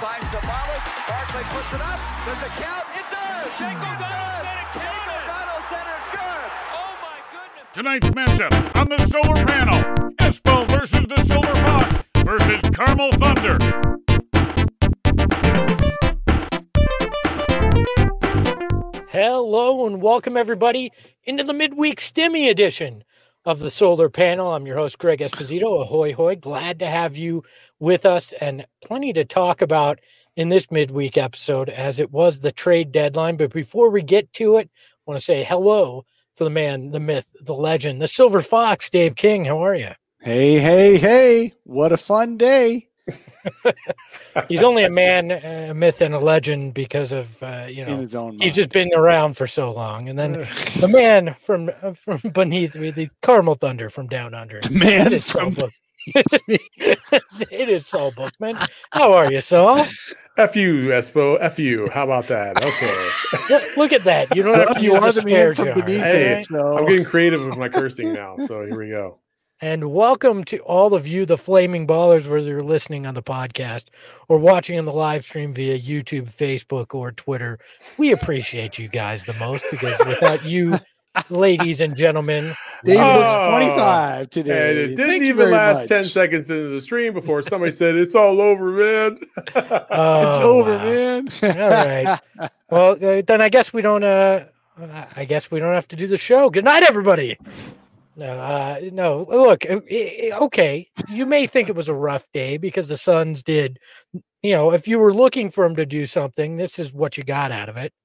finds Sabalas. Barkley puts it up. Does it count? It does. Shango does. O'Donnell centers good. Oh my goodness. Tonight's matchup on the solar panel: Espo versus the Silver Fox versus Carmel Thunder. Hello and welcome everybody into the midweek Stimmy edition of the Solar Panel. I'm your host, Greg Esposito. Ahoy, hoy. Glad to have you with us and plenty to talk about in this midweek episode as it was the trade deadline. But before we get to it, I want to say hello to the man, the myth, the legend, the Silver Fox, Dave King. How are you? Hey. What a fun day. He's only a man, a myth, and a legend because of, in his own mind. He's just been around for so long. And then the man from beneath me, the Carmel Thunder from down under. The man it is Saul Bookman. How are you, Saul? F you, Espo. F you. How about that? Okay. Look at that. You don't have to You use are a the man swear from jar. beneath Okay? it. So. I'm getting creative with my cursing now, so here we go. And welcome to all of you, the Flaming Ballers, whether you're listening on the podcast or watching on the live stream via YouTube, Facebook, or Twitter. We appreciate you guys the most because without you, ladies and gentlemen, Dave looks 25 today. And it didn't Thank you even very last much. 10 seconds into the stream before somebody said, "It's all over, man." It's over, wow. man. All right. Well, then I guess we don't. I guess we don't have to do the show. Good night, everybody. No. Look, okay. You may think it was a rough day because the Suns did. If you were looking for them to do something, this is what you got out of it.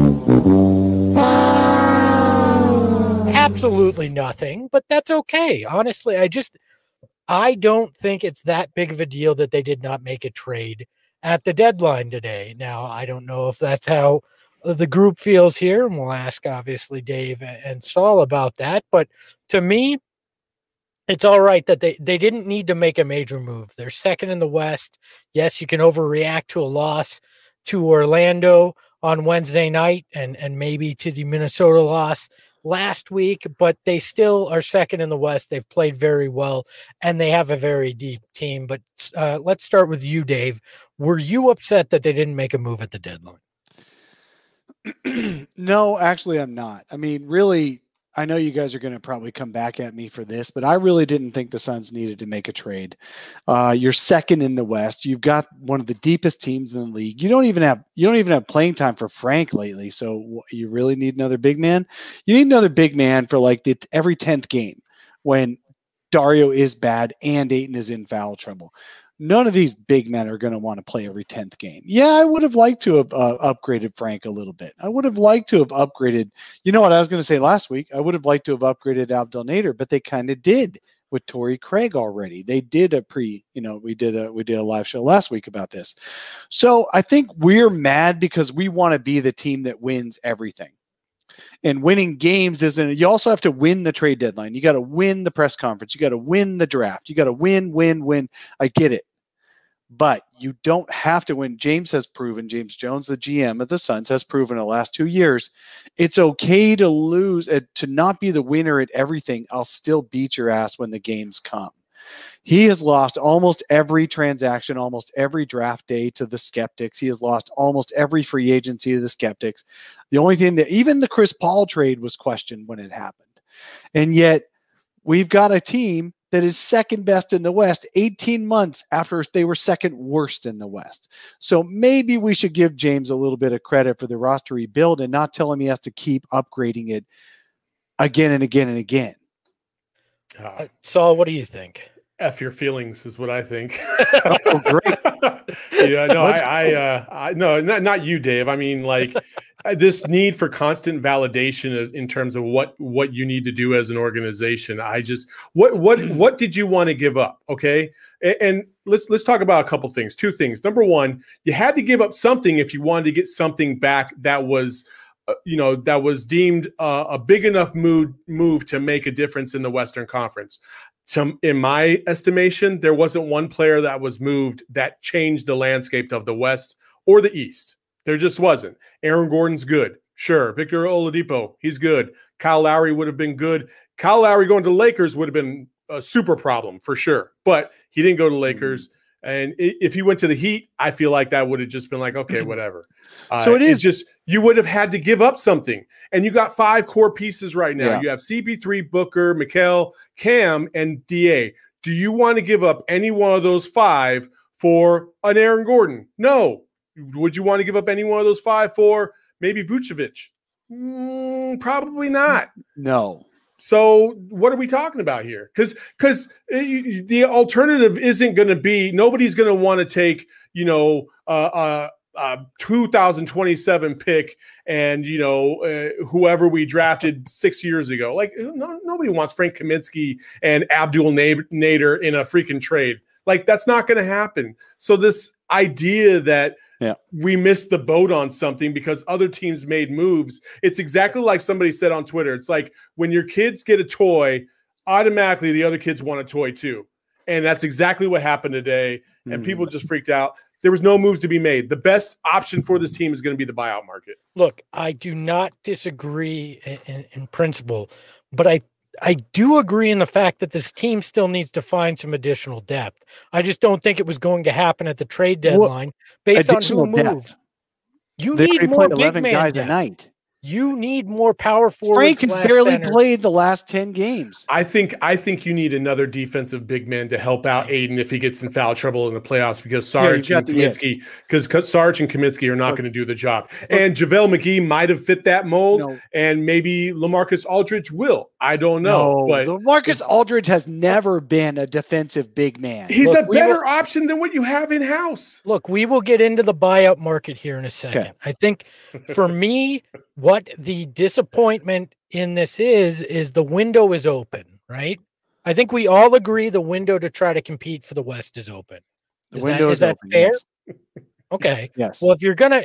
Absolutely nothing, but that's okay. Honestly, I don't think it's that big of a deal that they did not make a trade at the deadline today. Now, I don't know if that's how the group feels here, and we'll ask obviously Dave and Saul about that. But to me, it's all right that they didn't need to make a major move. They're second in the West. Yes, you can overreact to a loss to Orlando on Wednesday night and maybe to the Minnesota loss last week, but they still are second in the West. They've played very well, and they have a very deep team. But let's start with you, Dave. Were you upset that they didn't make a move at the deadline? No, actually, I'm not. I mean, really, I know you guys are going to probably come back at me for this, but I really didn't think the Suns needed to make a trade. You're second in the West. You've got one of the deepest teams in the league. You don't even have playing time for Frank lately. So you really need another big man. You need another big man for like every 10th game when Dario is bad and Ayton is in foul trouble. None of these big men are going to want to play every 10th game. Yeah, I would have liked to have upgraded Frank a little bit. I would have liked to have upgraded. You know what I was going to say last week? I would have liked to have upgraded Abdel Nader, but they kind of did with Torrey Craig already. They did we did a live show last week about this. So I think we're mad because we want to be the team that wins everything. And winning games isn't. You also have to win the trade deadline. You got to win the press conference. You got to win the draft. You got to win. I get it. But you don't have to win. James Jones, the GM of the Suns, has proven in the last 2 years, it's okay to lose, to not be the winner at everything. I'll still beat your ass when the games come. He has lost almost every transaction, almost every draft day to the skeptics. He has lost almost every free agency to the skeptics. The only thing that even the Chris Paul trade was questioned when it happened. And yet we've got a team that is second best in the West 18 months after they were second worst in the West. So maybe we should give James a little bit of credit for the roster rebuild and not tell him he has to keep upgrading it again and again and again. Saul, what do you think? F your feelings is what I think. Oh, great. Yeah, no, no, not you, Dave. I mean, like this need for constant validation in terms of what you need to do as an organization. What did you want to give up? Okay. And let's talk about a couple things, two things. Number one, you had to give up something if you wanted to get something back that was, that was deemed a big enough move to make a difference in the Western Conference. In my estimation, there wasn't one player that was moved that changed the landscape of the West or the East. There just wasn't. Aaron Gordon's good. Sure. Victor Oladipo, he's good. Kyle Lowry would have been good. Kyle Lowry going to the Lakers would have been a super problem for sure. But he didn't go to Lakers. And if he went to the Heat, I feel like that would have just been like, okay, whatever. So it's just, you would have had to give up something. And you got 5 core pieces right now. Yeah. You have CP3, Booker, Mikal, Cam, and DA. Do you want to give up any one of those 5 for an Aaron Gordon? No. Would you want to give up any one of those 5 for maybe Vucevic? Probably not. No. So what are we talking about here? Because the alternative isn't going to be, nobody's going to want to take, 2027 pick and, whoever we drafted 6 years ago. Like, nobody wants Frank Kaminsky and Abdul Nader in a freaking trade. Like, that's not going to happen. So this idea that we missed the boat on something because other teams made moves. It's exactly like somebody said on Twitter. It's like when your kids get a toy, automatically the other kids want a toy too. And that's exactly what happened today. And people just freaked out. There was no moves to be made. The best option for this team is going to be the buyout market. Look, I do not disagree in principle, but I do agree in the fact that this team still needs to find some additional depth. I just don't think it was going to happen at the trade deadline based on who moved. You need more big man guys depth. a night. You need more power forward. Frank has barely played the last 10 games. I think you need another defensive big man to help out Aiden if he gets in foul trouble in the playoffs because Sarge and Kaminsky are not going to do the job. And JaVale McGee might have fit that mold, and maybe LaMarcus Aldridge will. I don't know. But LaMarcus Aldridge has never been a defensive big man. He's a better option than what you have in house. Look, we will get into the buyout market here in a second. Okay. I think for me, what the disappointment in this is the window is open, right? I think we all agree the window to try to compete for the West is open. Is that fair? Yes. Okay. Yes. Well,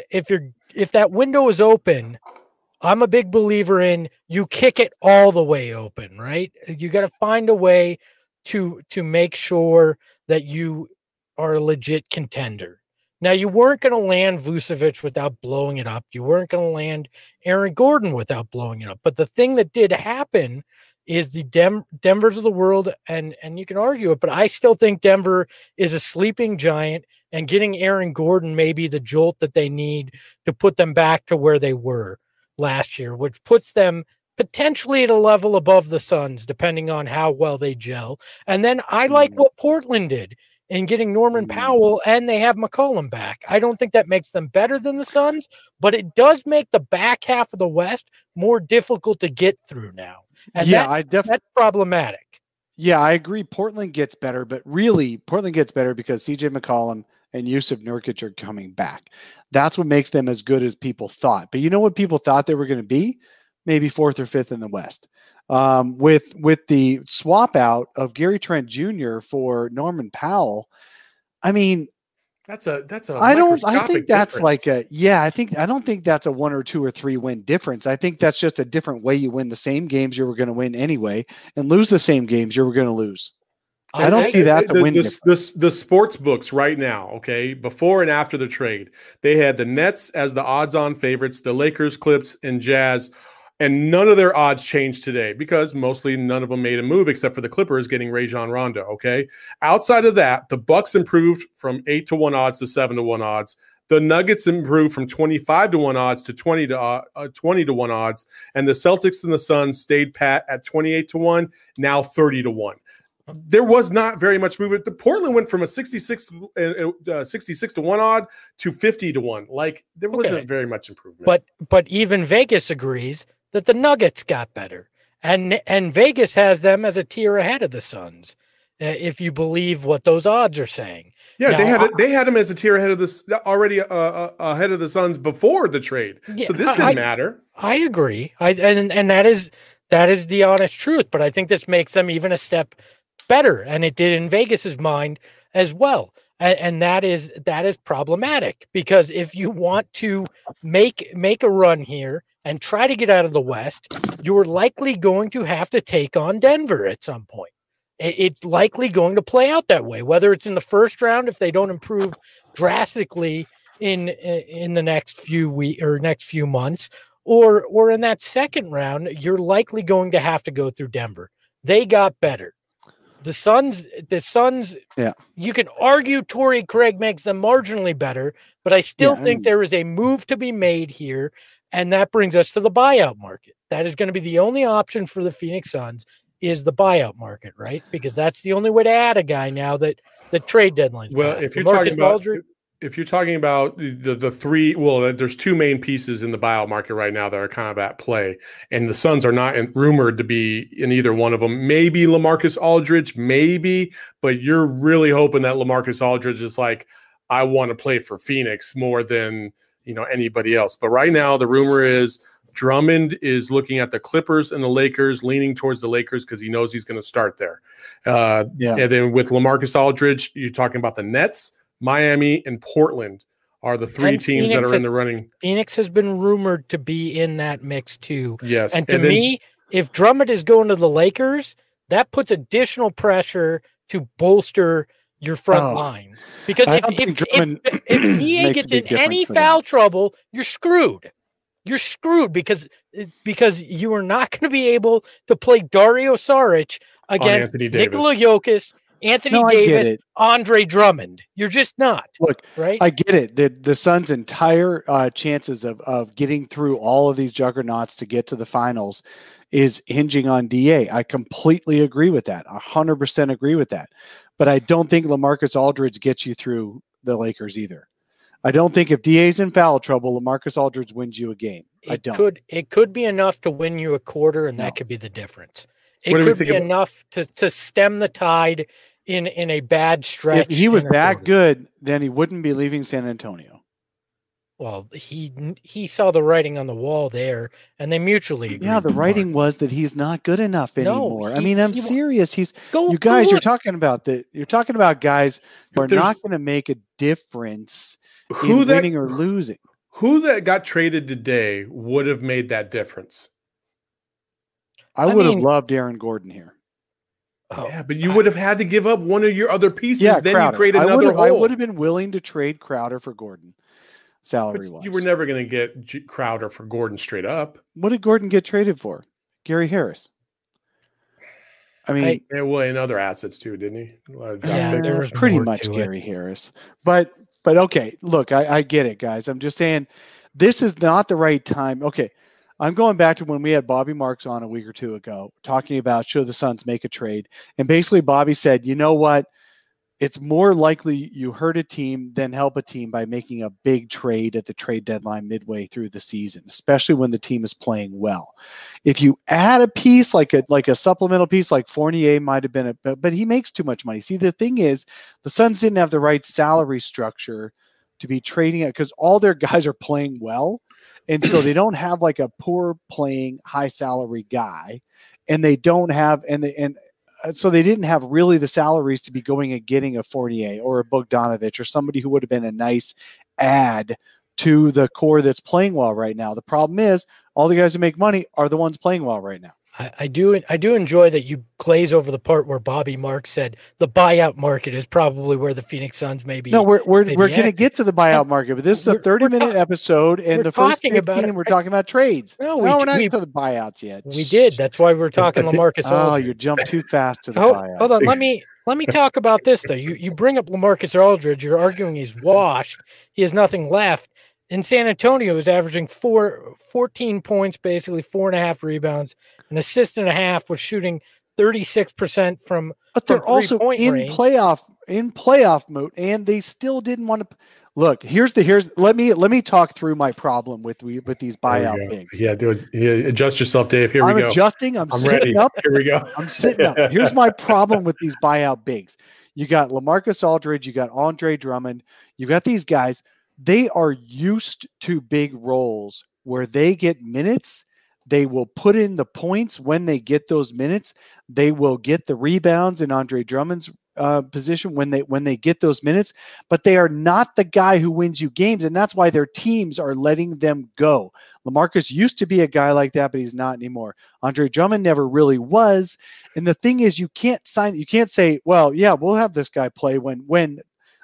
if that window is open, I'm a big believer in you kick it all the way open, right? You got to find a way to make sure that you are a legit contender. Now, you weren't going to land Vucevic without blowing it up. You weren't going to land Aaron Gordon without blowing it up. But the thing that did happen is the Denvers of the world, and you can argue it, but I still think Denver is a sleeping giant, and getting Aaron Gordon may be the jolt that they need to put them back to where they were last year, which puts them potentially at a level above the Suns, depending on how well they gel. And then I like what Portland did in getting Norman Powell, and they have McCollum back. I don't think that makes them better than the Suns, but it does make the back half of the West more difficult to get through now. And that's problematic. Yeah, I agree. Portland gets better, but really Portland gets better because CJ McCollum and Yusuf Nurkic are coming back. That's what makes them as good as people thought. But you know what people thought they were going to be? Maybe 4th or 5th in the West. With the swap out of Gary Trent Jr. for Norman Powell, I mean, that's a. I don't think that's I don't think that's a 1 or 2 or 3 win difference. I think that's just a different way you win the same games you were going to win anyway, and lose the same games you were going to lose. I don't see that to win. The sports books right now, okay, before and after the trade, they had the Nets as the odds-on favorites, the Lakers, Clips, and Jazz. And none of their odds changed today because mostly none of them made a move except for the Clippers getting Rajon Rondo. Okay. Outside of that, the Bucks improved from 8-1 odds to 7-1 odds. The Nuggets improved from 25-1 odds to 20-1 odds. And the Celtics and the Suns stayed pat at 28-1, now 30-1. There was not very much movement. The Portland went from a 66-1 odd to 50-1. Like there wasn't very much improvement. But even Vegas agrees that the Nuggets got better, and Vegas has them as a tier ahead of the Suns, if you believe what those odds are saying. Yeah, now, they had them as a tier ahead of ahead of the Suns before the trade. Yeah, so this didn't matter. I agree. And that is the honest truth. But I think this makes them even a step better, and it did in Vegas's mind as well. And that is problematic because if you want to make a run here and try to get out of the West, you're likely going to have to take on Denver at some point. It's likely going to play out that way, whether it's in the first round if they don't improve drastically in the next few weeks or next few months, or in that second round, you're likely going to have to go through Denver. They got better. The Suns, Yeah. you can argue Torrey Craig makes them marginally better, but I still think there is a move to be made here. And that brings us to the buyout market. That is going to be the only option for the Phoenix Suns is the buyout market, right? Because that's the only way to add a guy now that the trade deadline. Well, if you're talking about the three, well, there's two main pieces in the buyout market right now that are kind of at play, and the Suns are not rumored to be in either one of them. Maybe LaMarcus Aldridge, maybe, but you're really hoping that LaMarcus Aldridge is like, I want to play for Phoenix more than anybody else. But right now, the rumor is Drummond is looking at the Clippers and the Lakers, leaning towards the Lakers because he knows he's going to start there. And then with LaMarcus Aldridge, you're talking about the Nets, Miami, and Portland are the three teams that are in the running. Phoenix has been rumored to be in that mix too. Yes. And to me, if Drummond is going to the Lakers, that puts additional pressure to bolster your front line. Because if EA gets in any foul trouble, you're screwed. You're screwed because you are not going to be able to play Dario Saric against Nikola Jokic, Anthony Davis, Andre Drummond. You're just not. Look, right? I get it. The Suns' entire chances of getting through all of these juggernauts to get to the finals is hinging on DA. I completely agree with that. 100% agree with that. But I don't think LaMarcus Aldridge gets you through the Lakers either. I don't think if DA's in foul trouble, LaMarcus Aldridge wins you a game. It could be enough to win you a quarter, and that could be the difference. It could be enough to stem the tide in a bad stretch. If he was that good, then he wouldn't be leaving San Antonio. Well, he saw the writing on the wall there, and they mutually agreed. Yeah, the writing was that he's not good enough anymore. I'm serious. You're talking about guys who are not going to make a difference in winning or losing. Who that got traded today would have made that difference? I would have loved Aaron Gordon here. Yeah, but you would have had to give up one of your other pieces. Yeah, then Crowder. You create another hole. I would have been willing to trade Crowder for Gordon, salary-wise. You were never going to get Crowder for Gordon straight up. What did Gordon get traded for? Gary Harris. I mean, in other assets too, didn't he? There was pretty much Gary Harris. But okay, look, I get it, guys. I'm just saying this is not the right time. Okay, I'm going back to when we had Bobby Marks on a week or two ago talking about should the Suns make a trade. And basically Bobby said, you know what? It's more likely you hurt a team than help a team by making a big trade at the trade deadline midway through the season, especially when the team is playing well. If you add a piece like a supplemental piece like Fournier might have been, but he makes too much money. See, the thing is, the Suns didn't have the right salary structure to be trading it because all their guys are playing well, and so they don't have like a poor playing high salary guy, and they don't have so they didn't have really the salaries to be going and getting a Fournier or a Bogdanovich or somebody who would have been a nice add to the core that's playing well right now. The problem is all the guys who make money are the ones playing well right now. I do enjoy that you glaze over the part where Bobby Marks said the buyout market is probably where the Phoenix Suns may be. No, we're going to get to the buyout market, but this is a 30-minute episode, and the first 15 we're talking about trades. No, we're not into the buyouts yet. We did. That's why we're talking LaMarcus Aldridge. Oh, you jumped too fast to the buyout. Hold on, let me talk about this though. You bring up LaMarcus Aldridge. You're arguing he's washed. He has nothing left. In San Antonio, is averaging 14 points, basically 4.5 rebounds, an assist and a half, was shooting 36% from. But they're also in playoff mode, and they still didn't want to. Look, let me talk through my problem with these buyout bigs. Yeah, dude, adjust yourself, Dave. Here we go. I'm adjusting. I'm sitting ready. Up. Here we go. I'm sitting up. Here's my problem with these buyout bigs. You got LaMarcus Aldridge. You got Andre Drummond. You got these guys. They are used to big roles where they get minutes. They will put in the points when they get those minutes. They will get the rebounds in Andre Drummond's position when they get those minutes, but they are not the guy who wins you games, and that's why their teams are letting them go. LaMarcus used to be a guy like that, but he's not anymore. Andre Drummond never really was, and the thing is, you can't say, well, yeah, we'll have this guy play when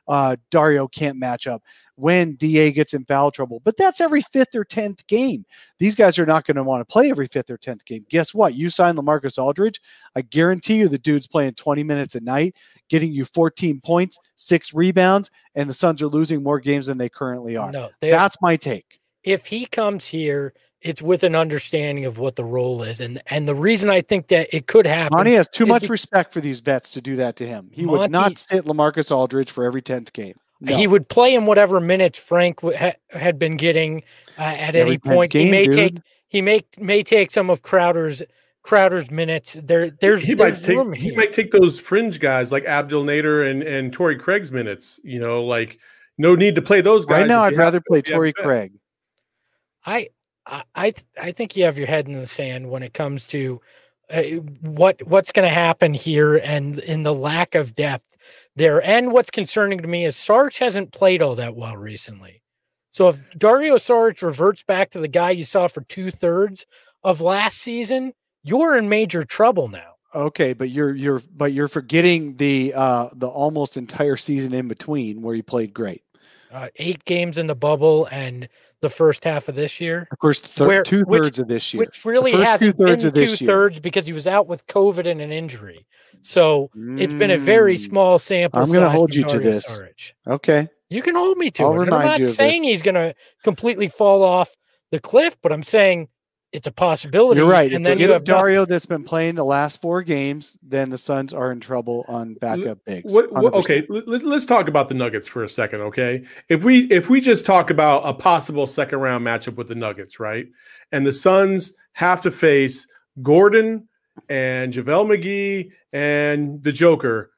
Dario can't match up, when DA gets in foul trouble. But that's every 5th or 10th game. These guys are not going to want to play every 5th or 10th game. Guess what? You sign LaMarcus Aldridge, I guarantee you the dude's playing 20 minutes a night, getting you 14 points, 6 rebounds, and the Suns are losing more games than they currently are. No, that's my take. If he comes here, it's with an understanding of what the role is. And the reason I think that it could happen. Monty has too much respect for these vets to do that to him. He would not sit LaMarcus Aldridge for every 10th game. No. He would play in whatever minutes Frank had been getting at any point. He may take some of Crowder's minutes. He might take those fringe guys like Abdel Nader and Torrey Craig's minutes. Like no need to play those guys. Right now, I'd rather play Torrey Craig. I think you have your head in the sand when it comes to what's going to happen here and in the lack of depth there. And what's concerning to me is Saric hasn't played all that well recently. So if Dario Saric reverts back to the guy you saw for 2/3 of last season, you're in major trouble now. Okay, but you're forgetting the almost entire season in between where he played great. 8 games in the bubble and the first half of this year. Of course, 2/3 of this year. Which really hasn't been 2/3 because he was out with COVID and an injury. So it's been a very small sample. I'm going to hold you to this. Saric. Okay. You can hold me to it. I'm not saying he's going to completely fall off the cliff, but I'm saying it's a possibility. You're right. And if then you have Dario that's been playing the last 4 games, then the Suns are in trouble on backup bigs. Okay, let's talk about the Nuggets for a second, okay? If we just talk about a possible second round matchup with the Nuggets, right? And the Suns have to face Gordon and JaVale McGee and the Joker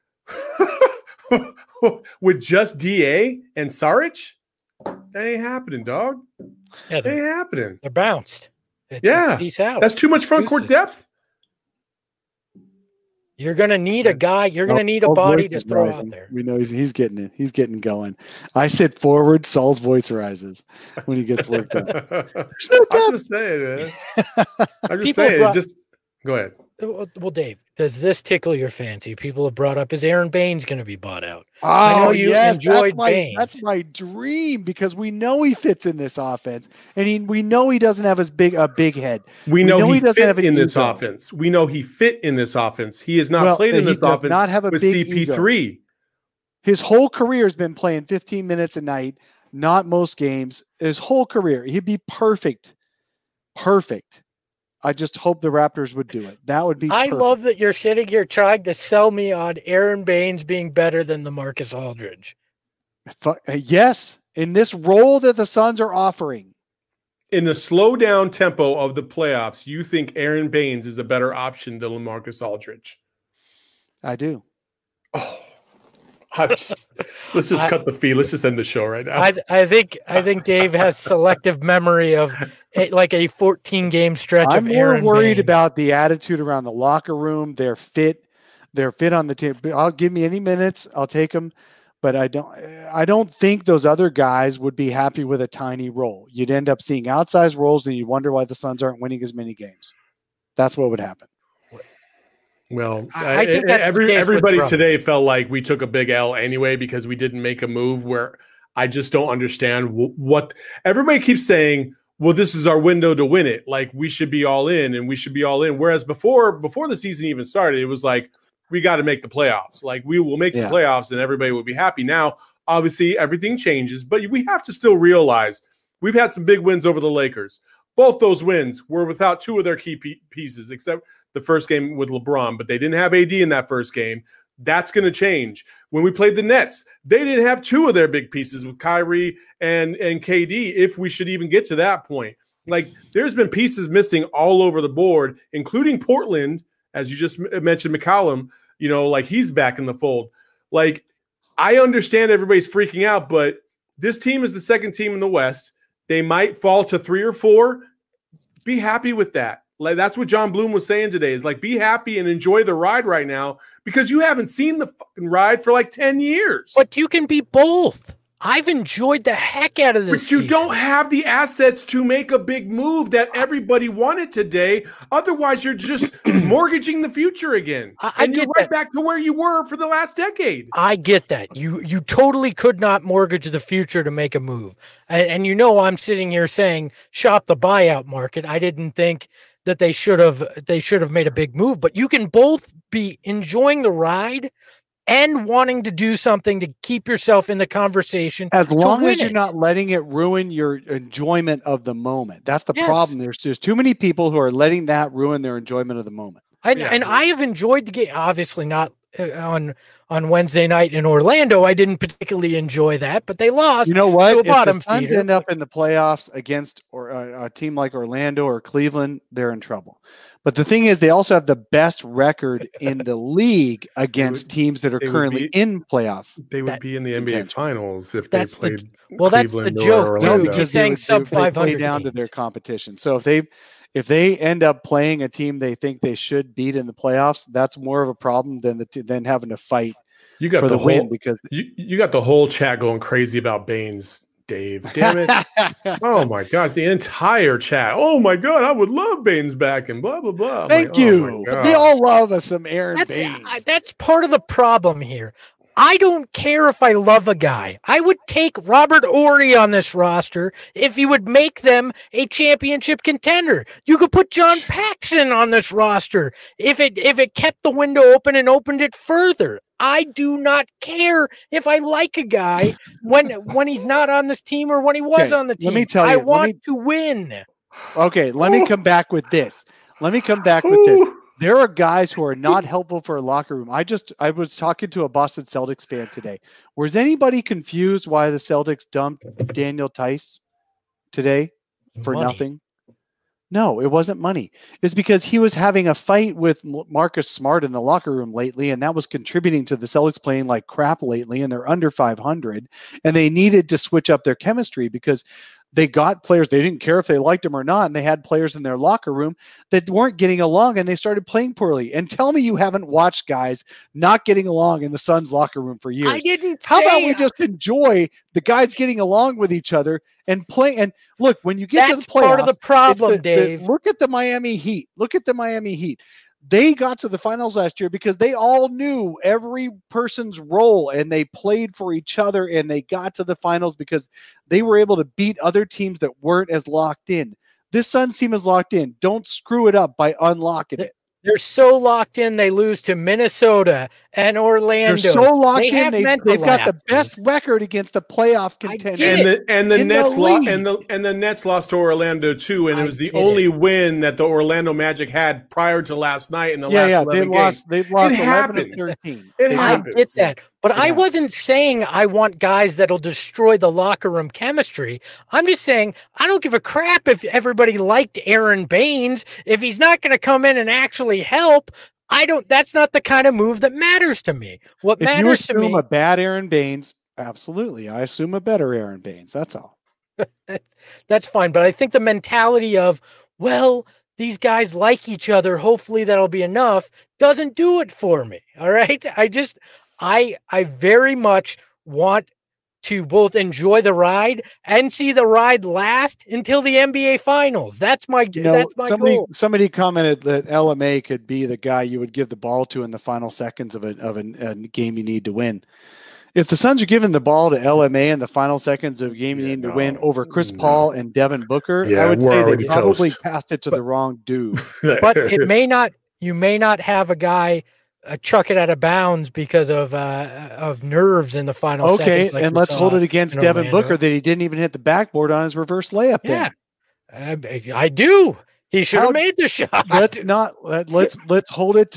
with just DA and Saric, that ain't happening, dog. Yeah, that ain't happening. They're bounced. Peace out. That's too much front court depth. You're going to need a guy. You're going to need a body to throw out there. We know he's getting it. He's getting going. I said forward. Saul's voice rises when he gets worked up. There's no depth. I'm just saying, man. I'm just saying. Just go ahead. Well, Dave, does this tickle your fancy? People have brought up, is Aaron Baines going to be bought out? Oh, I know you enjoyed Baines. That's my dream because we know he fits in this offense, and we know he doesn't have a big head. We know he doesn't have in this offense. We know he fit in this offense. He has not played in this offense. Not have a with big CP3. Ego. His whole career has been playing 15 minutes a night, not most games. His whole career, he'd be perfect. Perfect. I just hope the Raptors would do it. That would be perfect. I love that you're sitting here trying to sell me on Aaron Baines being better than LaMarcus Aldridge. Yes, in this role that the Suns are offering. In the slow down tempo of the playoffs, you think Aaron Baines is a better option than LaMarcus Aldridge? I do. Oh. Let's just cut the feed. Let's just end the show right now. I think Dave has selective memory of a 14-game stretch of Aaron I'm more worried Baines. about the attitude around the locker room, their fit on the team. I'll give me any minutes. I'll take them. But I don't think those other guys would be happy with a tiny role. You'd end up seeing outsized roles and you wonder why the Suns aren't winning as many games. That's what would happen. Well, I think everybody today felt like we took a big L anyway because we didn't make a move where I just don't understand what everybody keeps saying. Well, this is our window to win it. Like we should be all in and we should be all in. Whereas before the season even started, it was like, we got to make the playoffs. Like we will make the playoffs and everybody will be happy. Now, obviously everything changes, but we have to still realize we've had some big wins over the Lakers. Both those wins were without 2 of their key pieces, except the first game with LeBron, but they didn't have AD in that first game. That's going to change. When we played the Nets, they didn't have 2 of their big pieces with Kyrie and KD, if we should even get to that point. Like, there's been pieces missing all over the board, including Portland, as you just mentioned, McCollum, like he's back in the fold. Like, I understand everybody's freaking out, but this team is the second team in the West. They might fall to 3 or 4. Be happy with that. Like that's what John Bloom was saying today is like, be happy and enjoy the ride right now because you haven't seen the fucking ride for like 10 years. But you can be both. I've enjoyed the heck out of this. But you season. don't have the assets to make a big move that everybody wanted today. Otherwise, you're just mortgaging the future again. And you're right back to where you were for the last decade. I get that. You totally could not mortgage the future to make a move. And you know, I'm sitting here saying shop the buyout market. I didn't think that they should have made a big move, but you can both be enjoying the ride and wanting to do something to keep yourself in the conversation. As long as you're not letting it ruin your enjoyment of the moment. That's the problem. There's just too many people who are letting that ruin their enjoyment of the moment. And I have enjoyed the game. Obviously not on Wednesday night in Orlando. I didn't particularly enjoy that, but they lost. You know what? If the Suns end up in the playoffs against a team like Orlando or Cleveland, they're in trouble. But the thing is, they also have the best record in the league against teams that are currently in playoff. They would be in the NBA Finals if they played. That's the joke too. He's saying sub 500 down to their competition. So if they end up playing a team they think they should beat in the playoffs, that's more of a problem than having to fight for the win, because you got the whole chat going crazy about Baines. Dave, damn it. Oh my gosh, the entire chat. Oh my God, I would love Baines back and blah, blah, blah. Thank you. They all love us some Aaron Baines. That's part of the problem here. I don't care if I love a guy. I would take Robert Horry on this roster if he would make them a championship contender. You could put John Paxson on this roster if it kept the window open and opened it further. I do not care if I like a guy when he's not on this team or when he was on the team. Let me tell you, I want to win. Okay, let me come back with this. There are guys who are not helpful for a locker room. I was talking to a Boston Celtics fan today. Was anybody confused why the Celtics dumped Daniel Tice today for nothing? No, it wasn't money. It's because he was having a fight with Marcus Smart in the locker room lately, and that was contributing to the Celtics playing like crap lately, and they're under 500, and they needed to switch up their chemistry because they got players. They didn't care if they liked them or not, and they had players in their locker room that weren't getting along, and they started playing poorly. And tell me you haven't watched guys not getting along in the Suns locker room for years. I didn't. How about we just enjoy the guys getting along with each other and play? And look, when you get to the playoffs, part of the problem, Dave. Look at the Miami Heat. They got to the finals last year because they all knew every person's role, and they played for each other, and they got to the finals because they were able to beat other teams that weren't as locked in. This Suns team is locked in. Don't screw it up by unlocking it. They're so locked in, they lose to Minnesota and Orlando. They're so locked in, they've got the best record against the playoff contenders. And the Nets lost to Orlando too, and it was the only win that the Orlando Magic had prior to last night in the last 11 games. They've lost 11 of 13. I get that. But I wasn't saying I want guys that'll destroy the locker room chemistry. I'm just saying I don't give a crap if everybody liked Aaron Baines. If he's not going to come in and actually help, that's not the kind of move that matters to me. What matters to me. If you assume a bad Aaron Baines, absolutely. I assume a better Aaron Baines. That's all. That's fine. But I think the mentality of, well, these guys like each other, hopefully that'll be enough, doesn't do it for me. All right. I very much want to both enjoy the ride and see the ride last until the NBA Finals. That's my goal. Somebody commented that LMA could be the guy you would give the ball to in the final seconds of a game you need to win. If the Suns are giving the ball to LMA in the final seconds of a game you need to win over Chris Paul and Devin Booker, I would say they probably passed it to the wrong dude. But it may not. You may not have a guy chuck it out of bounds because of nerves in the final seconds. Okay, and let's hold it against Devin Booker that he didn't even hit the backboard on his reverse layup. Yeah, I do. He should have made the shot. Let's hold it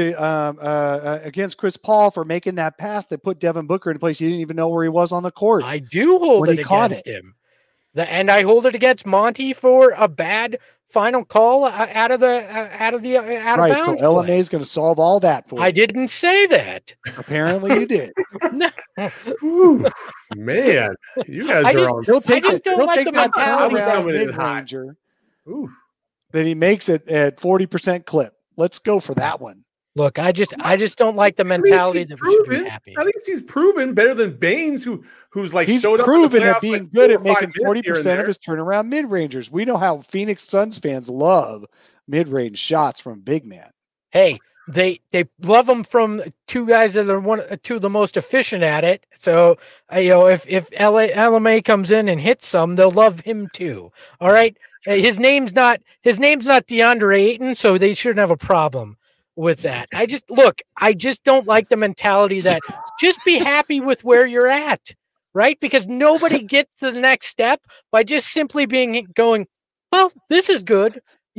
to against Chris Paul for making that pass that put Devin Booker in a place he didn't even know where he was on the court. I do hold it against him. And I hold it against Monty for a bad final call out of bounds. So LMA is going to solve all that for you. I didn't say that. Apparently you did. No. Ooh, man, you guys are on. I just don't like the mentality mid-ranger. Then he makes it at 40% clip. Let's go for that one. Look, I just don't like the mentality that we should be happy. I think he's proven better than Baines, who's like he's showed up proven in the at being like good at making 40% of his turnaround mid-rangers. We know how Phoenix Suns fans love mid-range shots from big man. Hey, they love them from two guys that are two of the most efficient at it. So if LMA comes in and hits some, they'll love him too. All right, his name's not DeAndre Ayton, so they shouldn't have a problem with that. I just don't like the mentality that just be happy with where you're at, right? Because nobody gets to the next step by just simply going, well, this is good.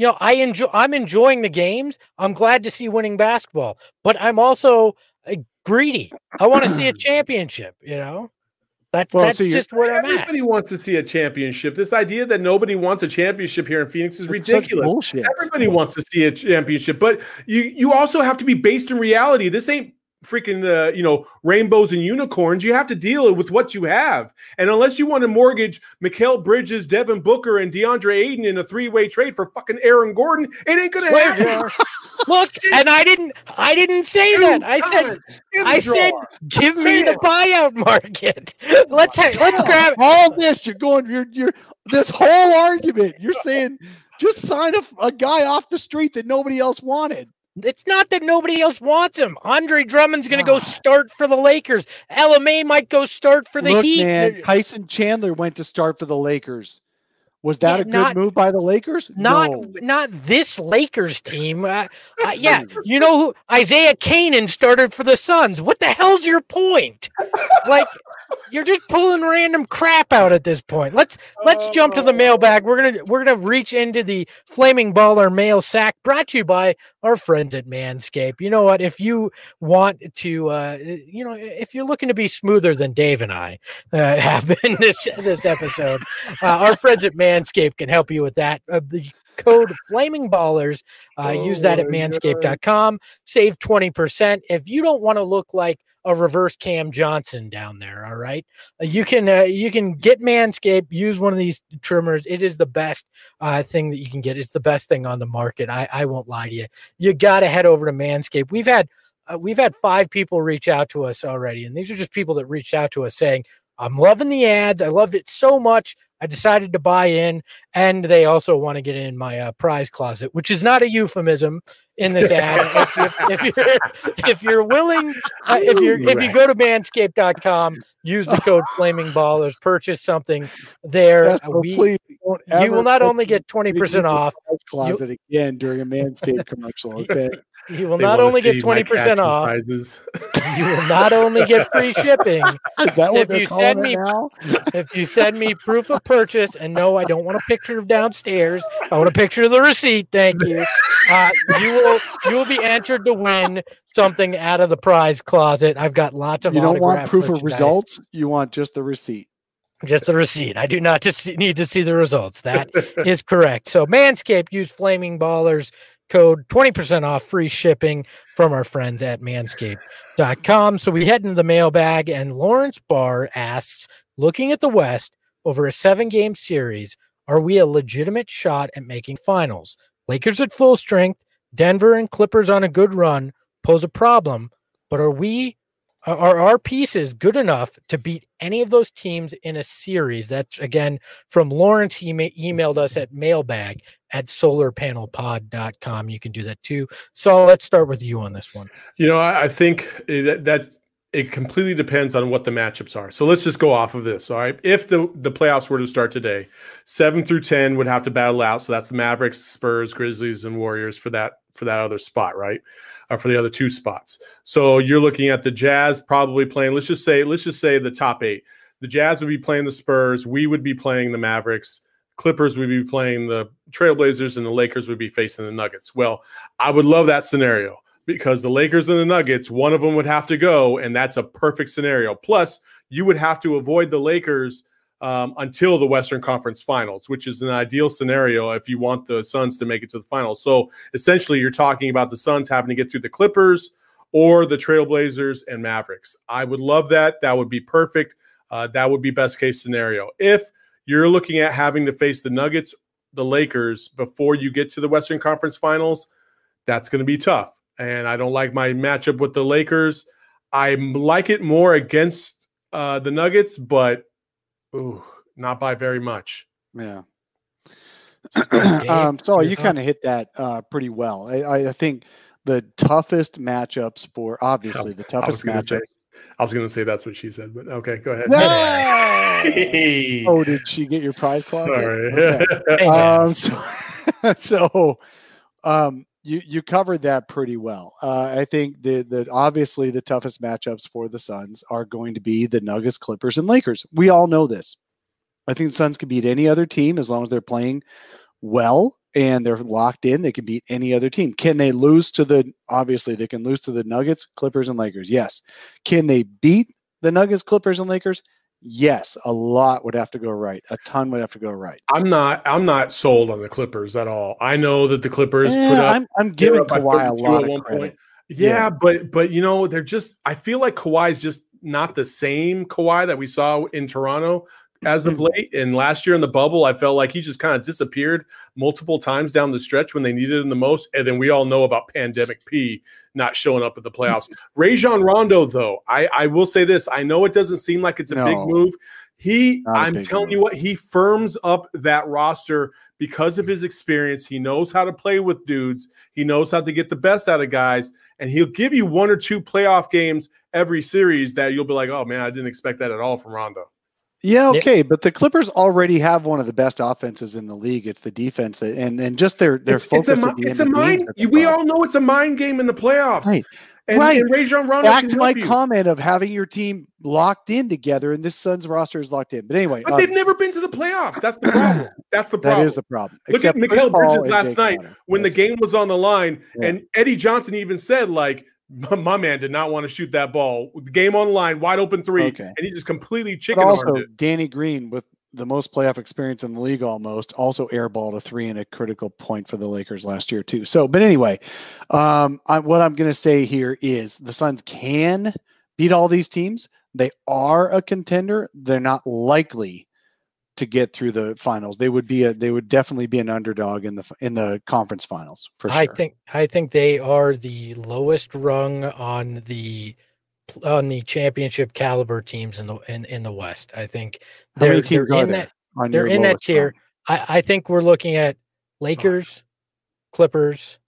I'm enjoying the games. I'm glad to see winning basketball, but I'm also greedy. I want to see a championship, That's just where I'm at. Everybody wants to see a championship. This idea that nobody wants a championship here in Phoenix is ridiculous. Bullshit. Everybody wants to see a championship, but you also have to be based in reality. This ain't freaking rainbows and unicorns. You have to deal with what you have, and unless you want to mortgage Mikal Bridges, Devin Booker, and DeAndre Ayton in a 3-way trade for fucking Aaron Gordon, it ain't gonna happen. Look, and I didn't say that. I said, give me the buyout market. Let's grab all this. You're this whole argument. You're saying just sign a guy off the street that nobody else wanted. It's not that nobody else wants him. Andre Drummond's going to go start for the Lakers. LMA might go start for the Heat. Man, Tyson Chandler went to start for the Lakers. Was that a good move by the Lakers? Not this Lakers team. Yeah, you know who? Isaiah Canaan started for the Suns. What the hell's your point? Like, you're just pulling random crap out at this point. Let's jump to the mailbag. We're gonna reach into the Flaming Baller mail sack, brought to you by our friends at Manscaped. You know what? If you want to, if you're looking to be smoother than Dave and I have been this episode, our friends at Manscaped can help you with that. The code Flaming Ballers, use that at manscaped.com. Save 20%. If you don't want to look like a reverse Cam Johnson down there, all right, you can get Manscaped. Use one of these trimmers. It is the best thing that you can get. It's the best thing on the market. I won't lie to you. You got to head over to Manscaped. We've had 5 people reach out to us already, and these are just people that reached out to us saying, I'm loving the ads. I loved it so much. I decided to buy in, and they also want to get in my prize closet, which is not a euphemism in this ad. if you're willing, if you go to manscaped.com, use the code Flaming Ballers, purchase something there. You will not only get 20% off. Closet again during a Manscaped commercial. Okay. You will not only get 20% off. You will not only get free shipping. Is that what they're calling it now? If you send me proof of purchase, and no, I don't want a picture of downstairs. I want a picture of the receipt. Thank you. You will be entered to win something out of the prize closet. I've got lots of. You don't want proof of results. You want just the receipt. Just the receipt. I do not need to see the results. That is correct. So Manscaped, use Flaming Ballers code 20% off, free shipping from our friends at manscaped.com. So we head into the mailbag, and Lawrence Barr asks, looking at the West over a 7-game series, are we a legitimate shot at making finals? Lakers at full strength, Denver and Clippers on a good run pose a problem, but are our pieces good enough to beat any of those teams in a series? That's, again, from Lawrence. He emailed us at mailbag@solarpanelpod.com. You can do that too. So let's start with you on this one. I think that it completely depends on what the matchups are. So let's just go off of this. All right. If the playoffs were to start today, 7 through 10 would have to battle out. So that's the Mavericks, Spurs, Grizzlies, and Warriors for that other spot, right? For the other 2 spots. So you're looking at the Jazz probably playing, let's just say the top 8. The Jazz would be playing the Spurs. We would be playing the Mavericks. Clippers would be playing the Trailblazers, and the Lakers would be facing the Nuggets. Well, I would love that scenario because the Lakers and the Nuggets, one of them would have to go, and that's a perfect scenario. Plus, you would have to avoid the Lakers until the Western Conference Finals, which is an ideal scenario if you want the Suns to make it to the finals. So essentially, you're talking about the Suns having to get through the Clippers or the Trailblazers and Mavericks. I would love that. That would be perfect. That would be best case scenario. If you're looking at having to face the Nuggets, the Lakers before you get to the Western Conference Finals, that's going to be tough. and I don't like my matchup with the Lakers. I like it more against the Nuggets, but not by very much. Yeah. Dave, So your you thought? kind of hit that pretty well. I think the toughest matchups for obviously the toughest matchups. I was going to say that's what she said, but okay, go ahead. No! Oh, did she get your prize closet? Sorry. Okay. You covered that pretty well. I think the obviously the toughest matchups for the Suns are going to be the Nuggets, Clippers, and Lakers. We all know this. I think the Suns can beat any other team as long as they're playing well and they're locked in. They can beat any other team. Can they lose to obviously they can lose to the Nuggets, Clippers, and Lakers? Yes. Can they beat the Nuggets, Clippers, and Lakers? Yes. A lot would have to go right. A ton would have to go right. I'm not sold on the Clippers at all. I know that the Clippers put up. I'm giving Kawhi a lot of credit. Yeah, but they're just. I feel like Kawhi's just not the same Kawhi that we saw in Toronto as of late. And last year in the bubble, I felt like he just kind of disappeared multiple times down the stretch when they needed him the most. And then we all know about Pandemic P not showing up at the playoffs. Rajon Rondo, though, I will say this. I know it doesn't seem like it's a big move. I'm telling you what, he firms up that roster because of his experience. He knows how to play with dudes. He knows how to get the best out of guys. And he'll give you one or two playoff games every series that you'll be like, oh, man, I didn't expect that at all from Rondo. Yeah, okay, but the Clippers already have one of the best offenses in the league. It's the defense that, and just their focus. It's a mind. We all know it's a mind game in the playoffs. Right. And Rajon Rondo. Back to my comment of having your team locked in together, and this Suns roster is locked in. But anyway, but they've never been to the playoffs. That's the problem. That's the problem. That is the problem. Look at Mikal Bridges last night when the game was on the line, and Eddie Johnson even said, like, my man did not want to shoot that ball. The game on the line, wide open three, and he just completely chicken-armed it. Danny Green, with the most playoff experience in the league almost, also airballed a three in a critical point for the Lakers last year too. So, but anyway, what I'm going to say here is the Suns can beat all these teams. They are a contender. They're not likely to get through the finals. They would definitely be an underdog in the conference finals for sure. I think they are the lowest rung on the championship caliber teams in the West. I think they're in that tier. I think we're looking at Lakers, Clippers.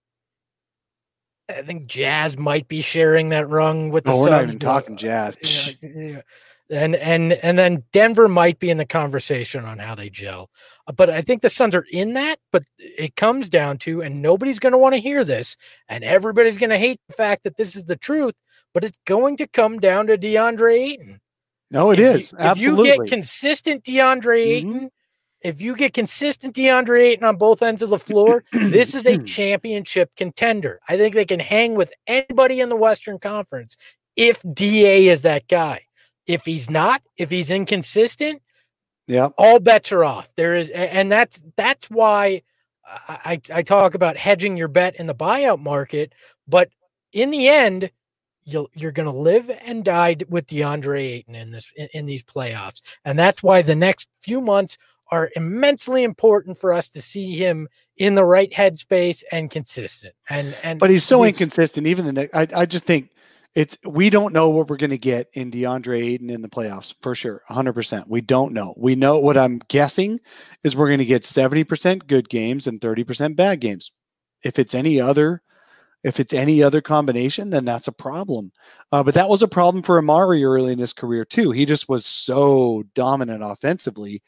I think Jazz might be sharing that rung with the Suns. We're not even talking Jazz. Yeah. And then Denver might be in the conversation on how they gel. But I think the Suns are in that, but it comes down to, and nobody's going to want to hear this, and everybody's going to hate the fact that this is the truth, but it's going to come down to DeAndre Ayton. No, it is. Absolutely. If you get consistent DeAndre Ayton, if you get consistent DeAndre Ayton on both ends of the floor, this is a championship contender. I think they can hang with anybody in the Western Conference if DA is that guy. If he's not, if he's inconsistent, all bets are off. And that's why I talk about hedging your bet in the buyout market. But in the end, you're going to live and die with DeAndre Ayton in these playoffs, and that's why the next few months are immensely important for us to see him in the right headspace and consistent. But he's so inconsistent. Even I just think. We don't know what we're going to get in DeAndre Ayton in the playoffs for sure. 100%. We don't know. We know what I'm guessing is we're going to get 70% good games and 30% bad games. If it's any other combination, then that's a problem. But that was a problem for Amari early in his career too. He just was so dominant offensively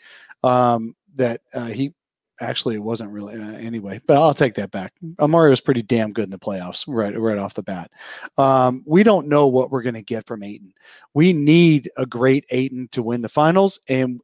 that he actually it wasn't really anyway, but I'll take that back. Amari was pretty damn good in the playoffs right off the bat. We don't know what we're going to get from Ayton. We need a great Ayton to win the finals, and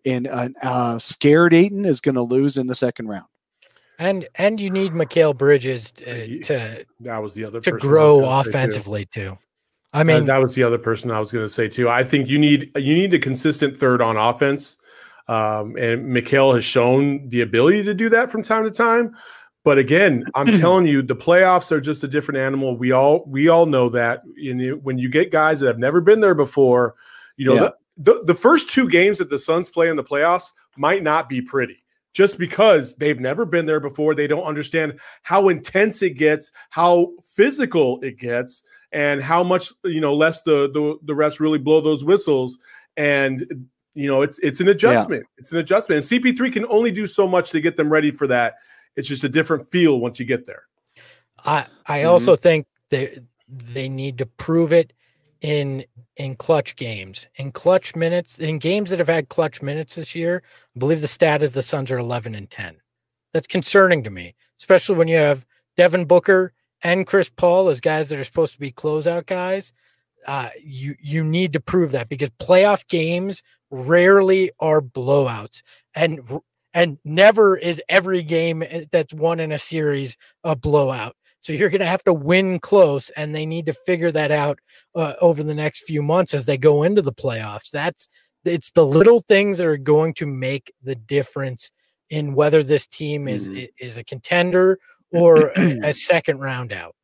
scared Ayton is going to lose in the second round. And you need Mikal Bridges to that was the other to grow offensively too. I mean, that was the other person I was going to say too. I think you need a consistent third on offense. And Mikal has shown the ability to do that from time to time. But again, I'm telling you, the playoffs are just a different animal. We all know that. When you get guys that have never been there before, the first two games that the Suns play in the playoffs might not be pretty. just because they've never been there before. They don't understand how intense it gets, how physical it gets, and how much, less the refs really blow those whistles. And, it's an adjustment. Yeah. It's an adjustment. And CP3 can only do so much to get them ready for that. It's just a different feel once you get there. I also think they need to prove it in clutch games, in clutch minutes, in games that have had clutch minutes this year. I believe the stat is the Suns are 11-10. That's concerning to me, especially when you have Devin Booker and Chris Paul as guys that are supposed to be closeout guys. You need to prove that, because playoff games rarely are blowouts, and never is every game that's won in a series a blowout. So you're going to have to win close, and they need to figure that out over the next few months as they go into the playoffs. It's the little things that are going to make the difference in whether this team is a contender or a second round out.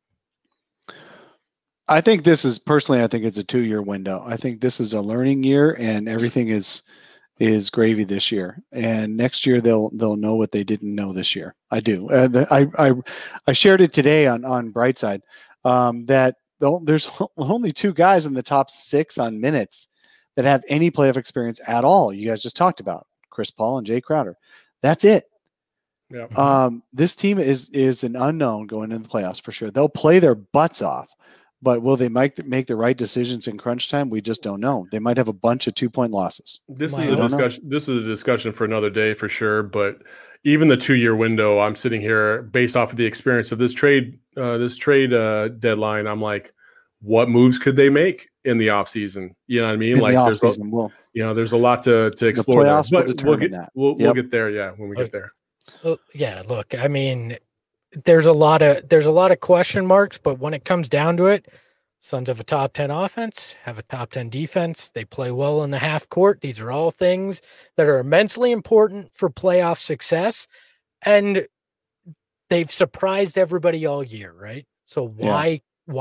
I think this is I think it's a 2-year window. I think this is a learning year, and everything is gravy this year. And next year they'll know what they didn't know this year. I do. I shared it today on Brightside that there's only 2 guys in the top 6 on minutes that have any playoff experience at all. You guys just talked about Chris Paul and Jay Crowder. That's it. Yeah. This team is an unknown going into the playoffs for sure. They'll play their butts off. But will they make the right decisions in crunch time? We just don't know. They might have a bunch of 2-point losses. This is a discussion. This is a discussion for another day for sure. But even the 2-year window, I'm sitting here based off of the experience of this trade deadline. I'm like, what moves could they make in the offseason? You know what I mean? There's a lot to explore. The but we'll get there. Yeah, when we get there. Yeah. Look, I mean, there's a lot of question marks, but when it comes down to it, Suns have a top 10 offense, have a top 10 defense. They play well in the half court. These are all things that are immensely important for playoff success. And they've surprised everybody all year, right? So why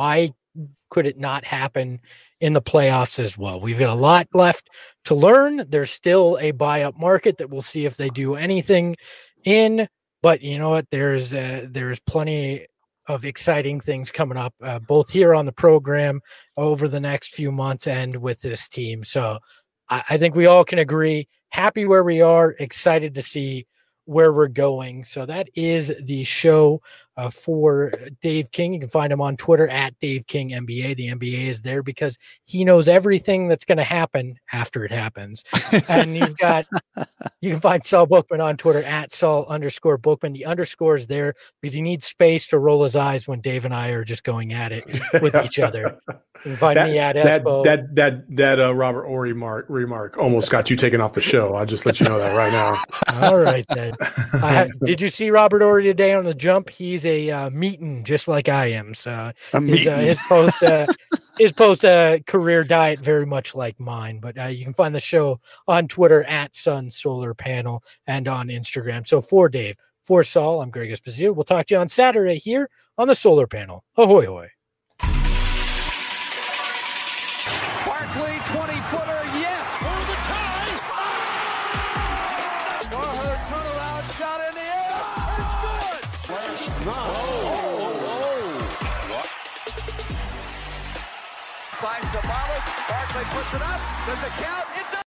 could it not happen in the playoffs as well? We've got a lot left to learn. There's still a buy-up market that we'll see if they do anything in. But you know what? There's plenty of exciting things coming up, both here on the program over the next few months and with this team. So I think we all can agree, happy where we are, excited to see where we're going. So that is the show for Dave King. You can find him on Twitter at Dave King NBA. The NBA is there because he knows everything that's going to happen after it happens. And you can find Saul Bookman on Twitter at Saul_Bookman. The underscore is there because he needs space to roll his eyes when Dave and I are just going at it with each other. You can find me at Espo. That Robert Horry remark almost got you taken off the show. I'll just let you know that right now. All right, then. Did you see Robert Horry today on the jump? He's a meeting just like I am. So his post career diet very much like mine. But you can find the show on Twitter at Sun Solar Panel and on Instagram. So for Dave, for Saul, I'm Greg Esposito. We'll talk to you on Saturday here on the Solar Panel. Ahoy, hoy. Barkley, 20-footer, yes, for the tie. Warhurst turnaround shot in the air. It's good. Finds the Barkley puts it up. Does it count? It does.